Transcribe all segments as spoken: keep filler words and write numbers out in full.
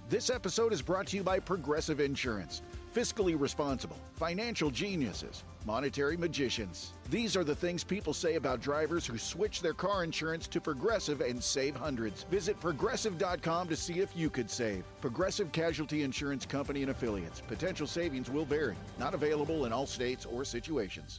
This episode is brought to you by Progressive Insurance. Fiscally responsible, financial geniuses, monetary magicians. These are the things people say about drivers who switch their car insurance to Progressive and save hundreds. Visit progressive dot com to see if you could save. Progressive Casualty Insurance Company and Affiliates. Potential savings will vary. Not available in all states or situations.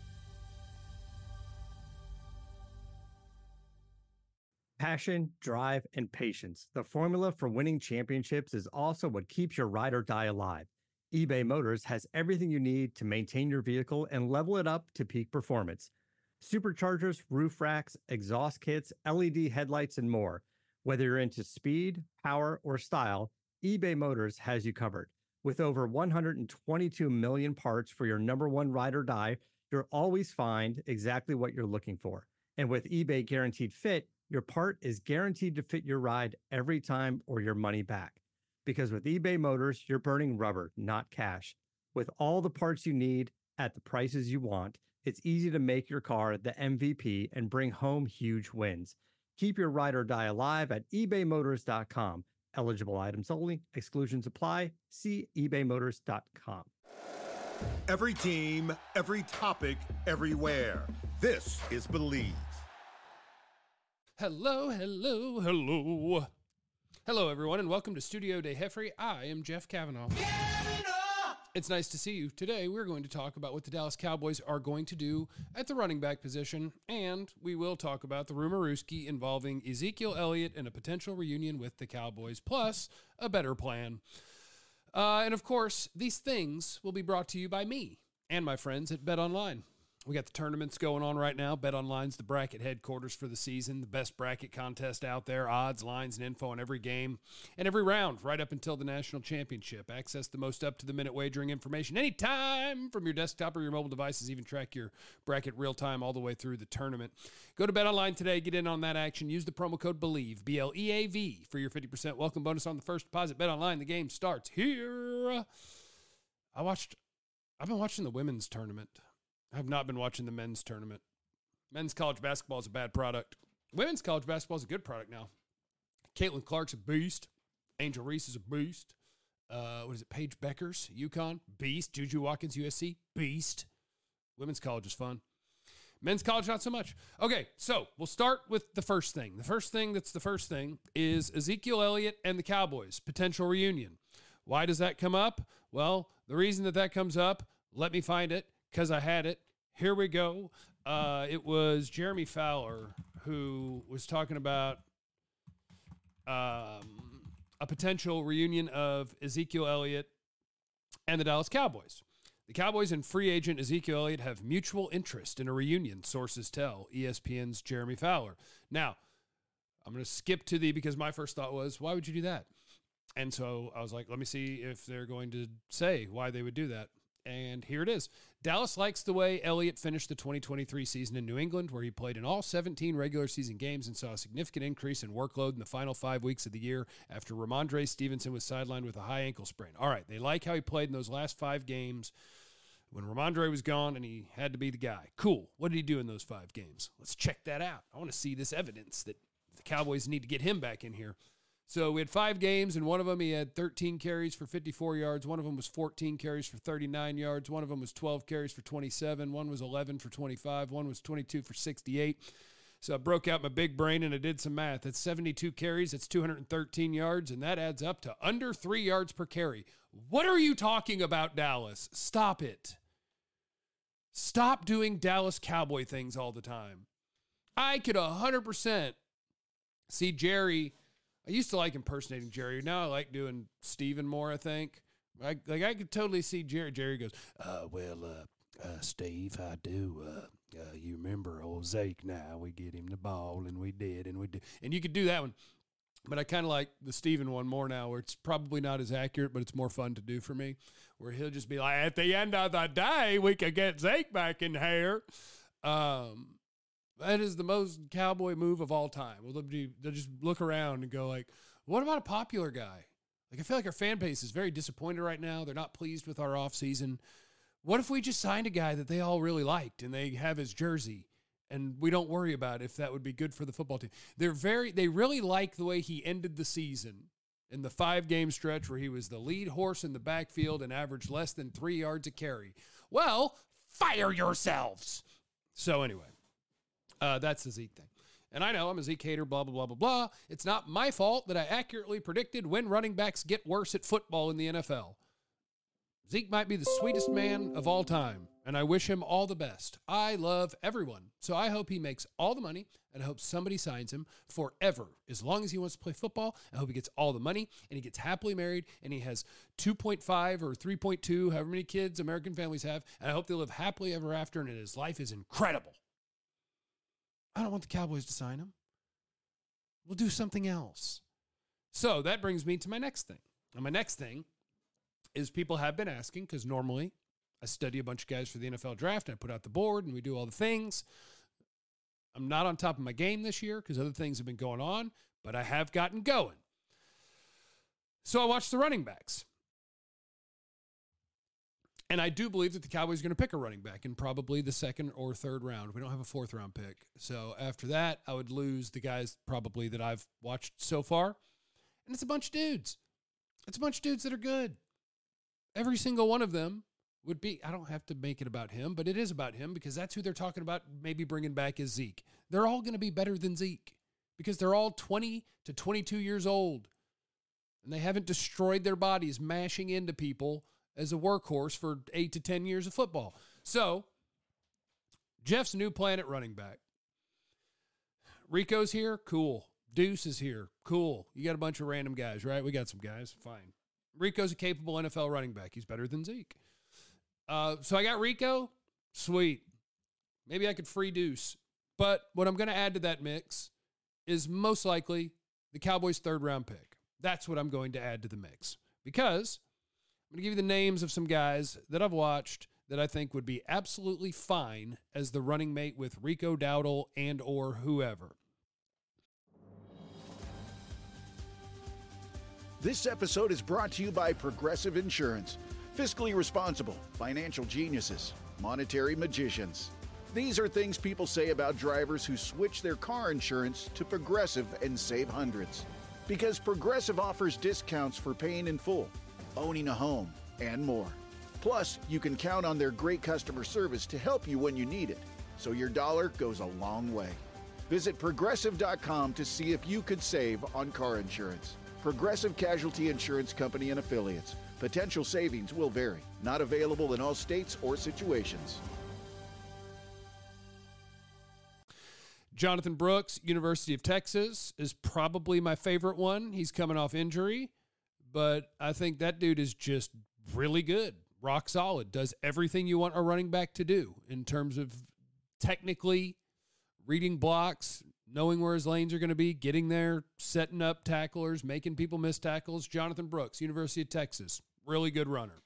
Passion, drive, and patience. The formula for winning championships is also what keeps your ride or die alive. eBay Motors has everything you need to maintain your vehicle and level it up to peak performance. Superchargers, roof racks, exhaust kits, L E D headlights, and more. Whether you're into speed, power, or style, eBay Motors has you covered. With over one hundred twenty-two million parts for your number one ride or die, you'll always find exactly what you're looking for. And with eBay Guaranteed Fit, your part is guaranteed to fit your ride every time or your money back. Because with eBay Motors, you're burning rubber, not cash. With all the parts you need at the prices you want, it's easy to make your car the M V P and bring home huge wins. Keep your ride or die alive at ebay motors dot com. Eligible items only. Exclusions apply. See ebay motors dot com. Every team, every topic, everywhere. This is Believe. Hello, hello, hello. Hello, everyone, and welcome to Studio De Jeffrey. I am Jeff Kavanaugh. It's nice to see you. Today, we're going to talk about what the Dallas Cowboys are going to do at the running back position, and we will talk about the rumorooski involving Ezekiel Elliott and a potential reunion with the Cowboys, plus a better plan. Uh, and, of course, these things will be brought to you by me and my friends at BetOnline. We got the tournaments going on right now. BetOnline's the bracket headquarters for the season, the best bracket contest out there, odds, lines, and info on every game and every round right up until the national championship. Access the most up-to-the-minute wagering information anytime from your desktop or your mobile devices. Even track your bracket real-time all the way through the tournament. Go to BetOnline today. Get in on that action. Use the promo code BELIEVE, B L E A V, for your fifty percent welcome bonus on the first deposit. BetOnline, the game starts here. I watched, I've been watching the women's tournament. I have not been watching the men's tournament. Men's college basketball is a bad product. Women's college basketball is a good product now. Caitlin Clark's a beast. Angel Reese is a beast. Uh, what is it? Paige Beckers, UConn, beast. Juju Watkins, U S C, beast. Women's college is fun. Men's college, not so much. Okay, so we'll start with the first thing. The first thing that's the first thing is Ezekiel Elliott and the Cowboys, potential reunion. Why does that come up? Well, the reason that that comes up, let me find it, because I had it. Here we go. Uh, it was Jeremy Fowler who was talking about um, a potential reunion of Ezekiel Elliott and the Dallas Cowboys. The Cowboys and free agent Ezekiel Elliott have mutual interest in a reunion, sources tell E S P N's Jeremy Fowler. Now, I'm going to skip to the, because my first thought was, why would you do that? And so I was like, let me see if they're going to say why they would do that. And here it is. Dallas likes the way Elliott finished the twenty twenty-three season in New England, where he played in all seventeen regular season games and saw a significant increase in workload in the final five weeks of the year after Ramondre Stevenson was sidelined with a high ankle sprain. All right, they like how he played in those last five games when Ramondre was gone and he had to be the guy. Cool. What did he do in those five games? Let's check that out. I want to see this evidence that the Cowboys need to get him back in here. So we had five games, and one of them he had thirteen carries for fifty-four yards. One of them was fourteen carries for thirty-nine yards. One of them was twelve carries for twenty-seven. One was eleven for twenty-five. One was twenty-two for sixty-eight. So I broke out my big brain, and I did some math. That's seventy-two carries. That's two hundred thirteen yards, and that adds up to under three yards per carry. What are you talking about, Dallas? Stop it. Stop doing Dallas Cowboy things all the time. I could one hundred percent see Jerry. I used to like impersonating Jerry. Now I like doing Steven more, I think. I, like, I could totally see Jerry. Jerry goes, uh, well, uh, uh, Steve, I do. Uh, uh, you remember old Zeke now. We get him the ball, and we did, and we did. And you could do that one. But I kind of like the Steven one more now, where it's probably not as accurate, but it's more fun to do for me, where he'll just be like, at the end of the day, we could get Zeke back in here. Um, that is the most Cowboy move of all time. Well, they'll, be, they'll just look around and go like, what about a popular guy? Like, I feel like our fan base is very disappointed right now. They're not pleased with our offseason. What if we just signed a guy that they all really liked and they have his jersey and we don't worry about if that would be good for the football team? They're very, they really like the way he ended the season. in the five-game stretch where he was the lead horse in the backfield and averaged less than three yards a carry. Well, fire yourselves. So anyway, uh, that's the Zeke thing. And I know I'm a Zeke hater, blah, blah, blah, blah, blah. It's not my fault that I accurately predicted when running backs get worse at football in the N F L. Zeke might be the sweetest man of all time, and I wish him all the best. I love everyone, so I hope he makes all the money, and I hope somebody signs him forever. As long as he wants to play football, I hope he gets all the money, and he gets happily married, and he has two point five or three point two, however many kids American families have, and I hope they live happily ever after, and his life is incredible. I don't want the Cowboys to sign him. We'll do something else. So that brings me to my next thing. And my next thing is people have been asking, because normally I study a bunch of guys for the N F L draft, and I put out the board, and we do all the things. I'm not on top of my game this year because other things have been going on, but I have gotten going. So I watched the running backs. And I do believe that the Cowboys are going to pick a running back in probably the second or third round. We don't have a fourth round pick. So after that, I would lose the guys probably that I've watched so far. And it's a bunch of dudes. It's a bunch of dudes that are good. Every single one of them would be, I don't have to make it about him, but it is about him because that's who they're talking about maybe bringing back is Zeke. They're all going to be better than Zeke because they're all twenty to twenty-two years old. And they haven't destroyed their bodies mashing into people as a workhorse for eight to ten years of football. So, Jeff's new plan at running back. Rico's here? Cool. Deuce is here? Cool. You got a bunch of random guys, right? We got some guys. Fine. Rico's a capable N F L running back. He's better than Zeke. Uh, so I got Rico. Sweet. Maybe I could free Deuce. But what I'm going to add to that mix is most likely the Cowboys' third-round pick. That's what I'm going to add to the mix. Because I'm going to give you the names of some guys that I've watched that I think would be absolutely fine as the running mate with Rico Dowdle and or whoever. This episode is brought to you by Progressive Insurance. Fiscally responsible, financial geniuses, monetary magicians. These are things people say about drivers who switch their car insurance to Progressive and save hundreds. Because Progressive offers discounts for paying in full, owning a home, and more. Plus, you can count on their great customer service to help you when you need it, so your dollar goes a long way. Visit Progressive dot com to see if you could save on car insurance. Progressive Casualty Insurance Company and Affiliates. Potential savings will vary. Not available in all states or situations. Jonathan Brooks, University of Texas, is probably my favorite one. He's coming off injury, but I think that dude is just really good. Rock solid. Does everything you want a running back to do in terms of technically reading blocks, knowing where his lanes are going to be, getting there, setting up tacklers, making people miss tackles. Jonathan Brooks, University of Texas, really good runner.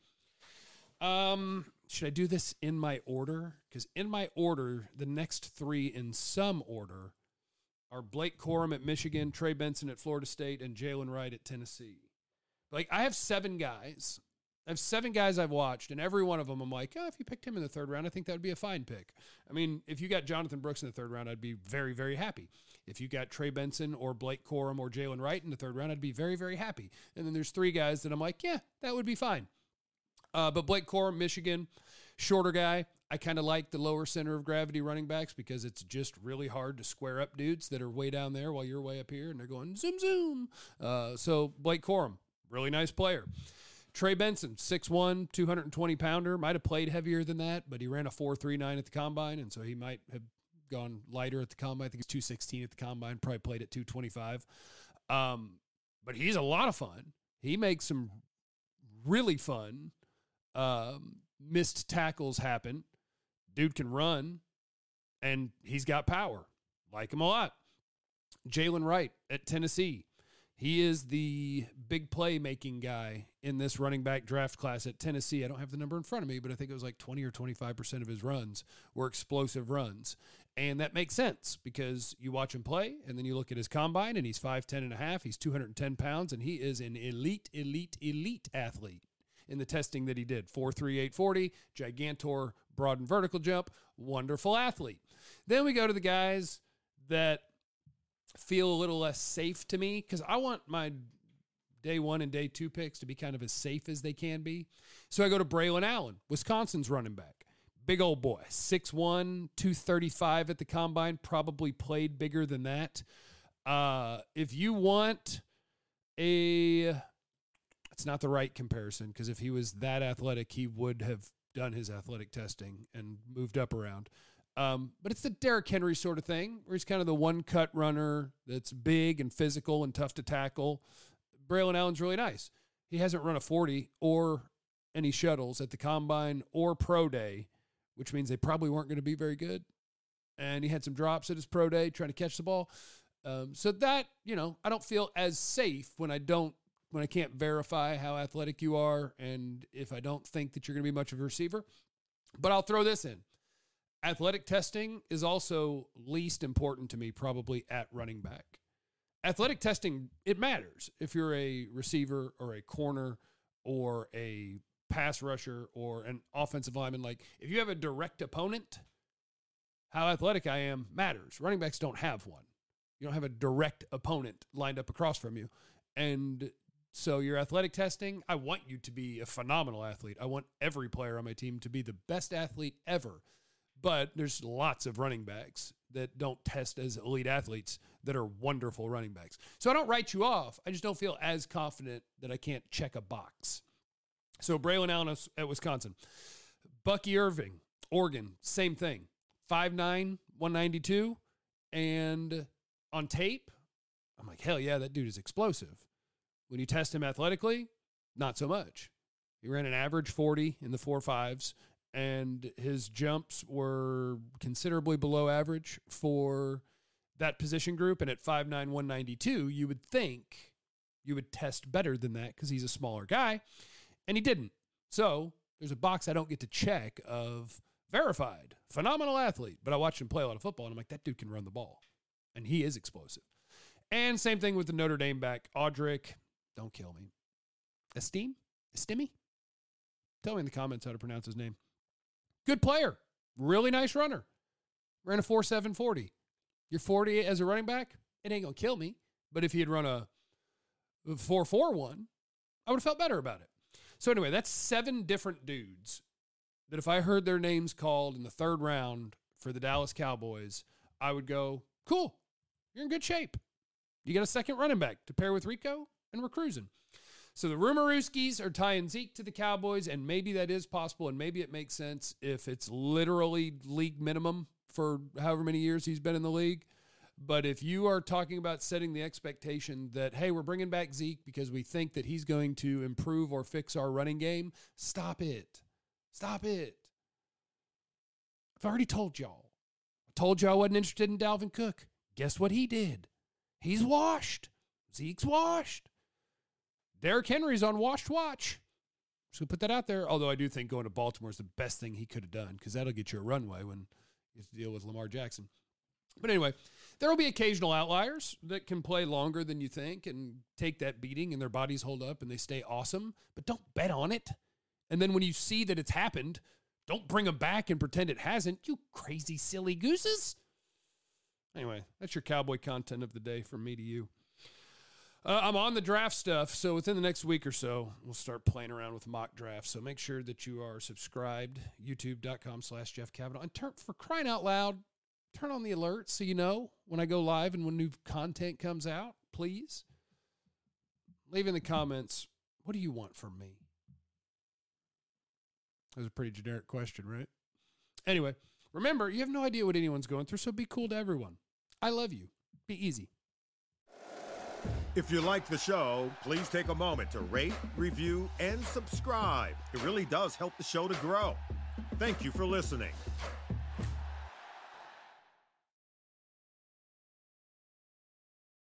Um, should I do this in my order? Because in my order, the next three in some order are Blake Corum at Michigan, Trey Benson at Florida State, and Jalen Wright at Tennessee. Like, I have seven guys. I have seven guys I've watched, and every one of them I'm like, oh, if you picked him in the third round, I think that would be a fine pick. I mean, if you got Jonathan Brooks in the third round, I'd be very, very happy. If you got Trey Benson or Blake Corum or Jalen Wright in the third round, I'd be very, very happy. And then there's three guys that I'm like, yeah, that would be fine. Uh, but Blake Corum, Michigan, shorter guy. I kind of like the lower center of gravity running backs because it's just really hard to square up dudes that are way down there while you're way up here, and they're going zoom, zoom. Uh, so Blake Corum, really nice player. Trey Benson, six one, two hundred twenty pounder, might have played heavier than that, but he ran a four three nine at the combine, and so he might have gone lighter at the combine. I think he's two sixteen at the combine, probably played at two twenty-five. Um, but he's a lot of fun. He makes some really fun um, missed tackles happen. Dude can run, and he's got power. Like him a lot. Jalen Wright at Tennessee. He is the big play-making guy in this running back draft class at Tennessee. I don't have the number in front of me, but I think it was like twenty or twenty-five percent of his runs were explosive runs. And that makes sense because you watch him play, and then you look at his combine, and he's five ten and a half. He's two hundred ten pounds, and he is an elite, elite, elite athlete in the testing that he did. four three, eight forty, gigantor, broad and vertical jump, wonderful athlete. Then we go to the guys that feel a little less safe to me because I want my day one and day two picks to be kind of as safe as they can be. So I go to Braylon Allen, Wisconsin's running back. Big old boy, six one, two thirty-five at the combine, probably played bigger than that. Uh, if you want a, it's not the right comparison, because if he was that athletic, he would have done his athletic testing and moved up around. Um, but it's the Derrick Henry sort of thing, where he's kind of the one-cut runner that's big and physical and tough to tackle. Braylon Allen's really nice. He hasn't run a forty or any shuttles at the combine or pro day, which means they probably weren't going to be very good. And he had some drops at his pro day trying to catch the ball. Um, so that, you know, I don't feel as safe when I don't, when I can't verify how athletic you are and if I don't think that you're going to be much of a receiver. But I'll throw this in. Athletic testing is also least important to me, probably at running back. Athletic testing, it matters if you're a receiver or a corner or a pass rusher or an offensive lineman. Like, if you have a direct opponent, how athletic I am matters. Running backs don't have one. You don't have a direct opponent lined up across from you. And so your athletic testing, I want you to be a phenomenal athlete. I want every player on my team to be the best athlete ever. But there's lots of running backs that don't test as elite athletes that are wonderful running backs. So I don't write you off. I just don't feel as confident that I can't check a box. So Braylon Allen at Wisconsin. Bucky Irving, Oregon, same thing. five nine, one ninety-two. And on tape, I'm like, hell yeah, that dude is explosive. When you test him athletically, not so much. He ran an average forty in the four fives. And his jumps were considerably below average for that position group. And at five nine, one ninety-two, you would think you would test better than that because he's a smaller guy. And he didn't. So there's a box I don't get to check of verified, phenomenal athlete. But I watched him play a lot of football, and I'm like, that dude can run the ball. And he is explosive. And same thing with the Notre Dame back, Audric. Don't kill me. Estime? Estime? Tell me in the comments how to pronounce his name. Good player. Really nice runner. Ran a four seven forty. You're forty as a running back, it ain't going to kill me. But if he had run a four four one, I would have felt better about it. So anyway, that's seven different dudes that if I heard their names called in the third round for the Dallas Cowboys, I would go, cool, you're in good shape. You got a second running back to pair with Rico, and we're cruising. So the Rumorooskies are tying Zeke to the Cowboys, and maybe that is possible, and maybe it makes sense if it's literally league minimum for however many years he's been in the league. But if you are talking about setting the expectation that, hey, we're bringing back Zeke because we think that he's going to improve or fix our running game, stop it. Stop it. I've already told y'all. I told you I wasn't interested in Dalvin Cook. Guess what he did? He's washed. Zeke's washed. Derrick Henry's on washed watch. So put that out there. Although I do think going to Baltimore is the best thing he could have done because that'll get you a runway when you have to deal with Lamar Jackson. But anyway, there will be occasional outliers that can play longer than you think and take that beating and their bodies hold up and they stay awesome. But don't bet on it. And then when you see that it's happened, don't bring them back and pretend it hasn't. You crazy, silly gooses. Anyway, that's your Cowboy content of the day from me to you. Uh, I'm on the draft stuff, so within the next week or so, we'll start playing around with mock drafts. So make sure that you are subscribed, youtube.com slash Jeff Cavanaugh. And turn, for crying out loud, turn on the alerts so you know when I go live and when new content comes out, please. Leave in the comments, what do you want from me? That was a pretty generic question, right? Anyway, remember, you have no idea what anyone's going through, so be cool to everyone. I love you. Be easy. If you like the show, please take a moment to rate, review, and subscribe. It really does help the show to grow. Thank you for listening.